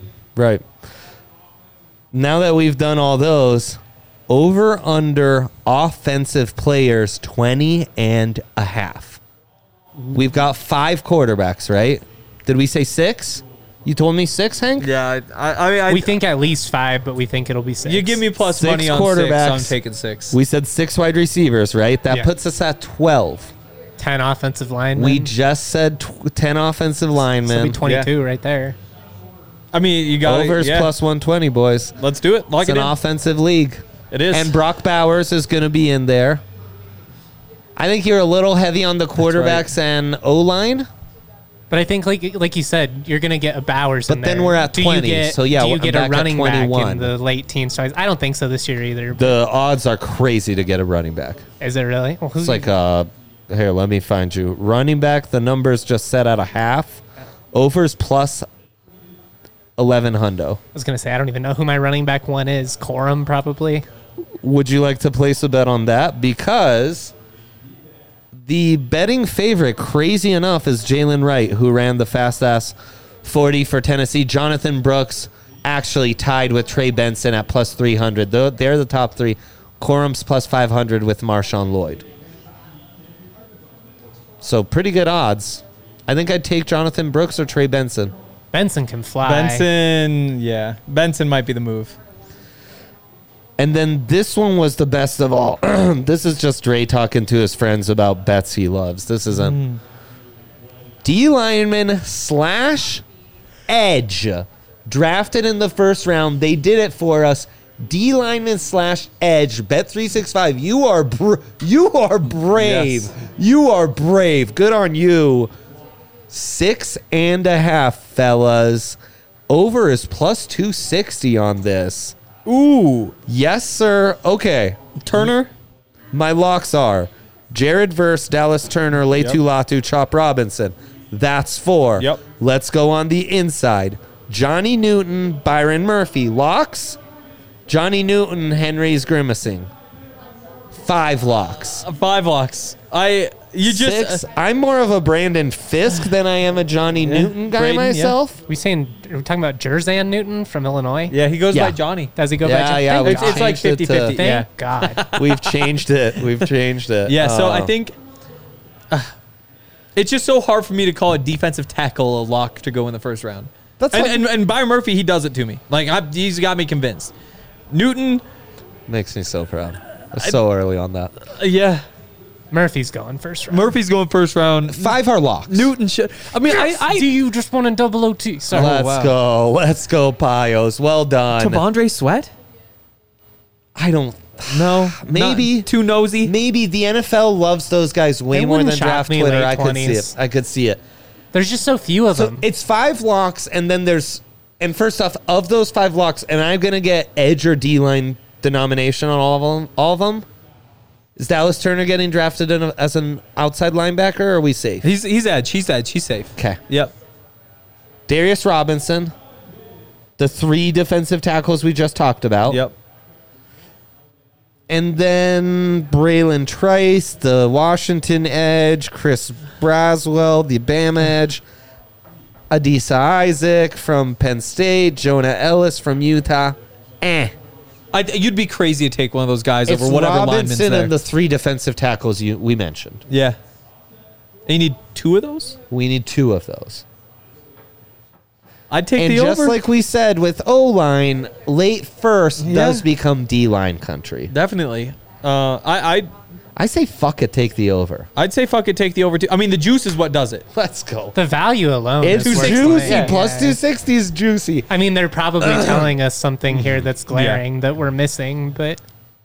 Now that we've done all those, over under offensive players 20.5. We've got 5 quarterbacks, right? Did we say 6? You told me 6, Hank? Yeah, I mean, we think at least 5, but we think it'll be 6. You give me plus 6 money on quarterbacks. 6, so I'm taking 6. We said 6 wide receivers, right? That puts us at 12. 10 offensive linemen. We just said 10 offensive linemen. So it'll be 22 right there. I mean, you got overs plus 120, boys. Let's do it. Lock it's it in. An offensive league. It is. And Brock Bowers is going to be in there. I think you're a little heavy on the quarterbacks and O-line. But I think, like you said, you're going to get a Bowers in there. But then we're at 20. Do you get a running back in the late teens? So I don't think so this year either. The odds are crazy to get a running back. Is it really? Well, it's like, here, let me find you. Running back, the number's just set at a half. Overs plus 11 hundo. I was going to say, I don't even know who my running back one is. Corum, probably. Would you like to place a bet on that? Because the betting favorite, crazy enough, is Jalen Wright, who ran the fast-ass 40 for Tennessee. Jonathan Brooks actually tied with Trey Benson at plus 300. They're the top 3. Corum's plus 500 with Marshawn Lloyd. So pretty good odds. I think I'd take Jonathan Brooks or Trey Benson. Benson can fly. Benson might be the move. And then this one was the best of all. This is just Dre talking to his friends about bets he loves. This isn't. D lineman / edge. Drafted in the first round. They did it for us. D lineman / edge. Bet365. You are brave. Yes. You are brave. Good on you. 6.5, fellas. Over is plus 260 on this. Ooh. Yes, sir. Okay. Turner? My locks are Jared Verse, Dallas Turner, Leitu Latu, Chop Robinson. That's 4. Yep. Let's go on the inside. Johnny Newton, Byron Murphy. Locks? Johnny Newton, Henry's grimacing. 5 locks. 5 locks. 6. I'm more of a Brandon Fisk than I am a Johnny Newton guy myself. Are we talking about Jerzan Newton from Illinois? Yeah, he goes by Johnny. Does he go by Johnny? Yeah, it's like 50-50. Thank God. We've changed it. Yeah, so I think it's just so hard for me to call a defensive tackle a lock to go in the first round. And Byron Murphy, he does it to me. Like he's got me convinced. Newton makes me so proud. So early on that. Yeah. Murphy's going first round. 5 are locks. Newton should. I mean, do you just want a double OT? Sorry. Let's go, Pios. Well done. T'Vondre Sweat? I don't know. Maybe too nosy. Maybe the NFL loves those guys way more than draft Twitter. I could see it. There's just so few of them. It's 5 locks, and then there's And first off, of those 5 locks, am I going to get edge or D-line denomination on all of them? Is Dallas Turner getting drafted as an outside linebacker, or are we safe? He's edge. He's edge. He's safe. Okay. Yep. Darius Robinson, the 3 defensive tackles we just talked about. Yep. And then Braylon Trice, the Washington edge, Chris Braswell, the Bama edge, Adisa Isaac from Penn State, Jonah Ellis from Utah. You'd be crazy to take one of those guys It's over whatever Robinson lineman's there. and the 3 defensive tackles we mentioned. Yeah. And you need 2 of those? We need 2 of those. I'd take and the over. And just like we said with O-line, late first does become D-line country. Definitely. I say fuck it, take the over. I'd say fuck it, take the over too. I mean, the juice is what does it. Let's go. The value alone it's is juicy. Yeah. Plus 260 is juicy. I mean, they're probably telling us something here that's glaring that we're missing, but...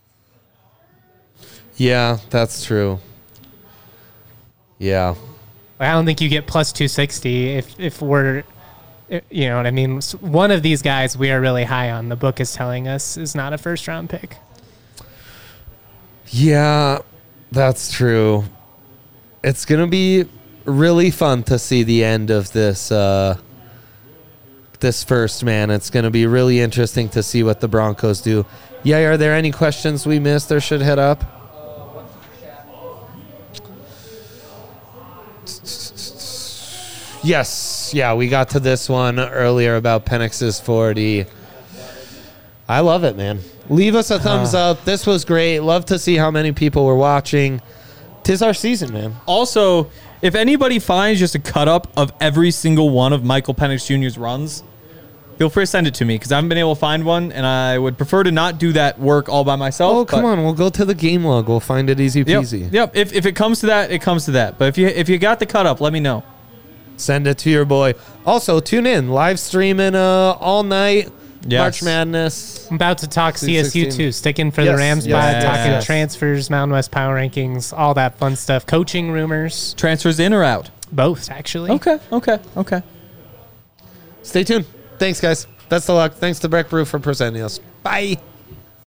Yeah, that's true. Yeah. I don't think you get plus 260 if we're... You know what I mean? One of these guys we are really high on, the book is telling us, is not a first-round pick. Yeah, that's true. It's going to be really fun to see the end of this this first, man. It's going to be really interesting to see what the Broncos do. Yeah, are there any questions we missed or should hit up? Yes. Yeah, we got to this one earlier about Penix's 40. I love it, man. Leave us a thumbs up. This was great. Love to see how many people were watching. 'Tis our season, man. Also, if anybody finds just a cut-up of every single one of Michael Penix Jr.'s runs, feel free to send it to me because I haven't been able to find one, and I would prefer to not do that work all by myself. Oh, come on. We'll go to the game log. We'll find it easy peasy. Yep. If it comes to that, it comes to that. But if you got the cut-up, let me know. Send it to your boy. Also, tune in. Live streaming all night. Yes. March Madness. I'm about to talk CSU too. Sticking for the Rams pod, talking transfers, Mountain West power rankings, all that fun stuff. Coaching rumors. Transfers in or out? Both, actually. Okay. Stay tuned. Thanks, guys. Best of luck. Thanks to Breck Brew for presenting us. Bye.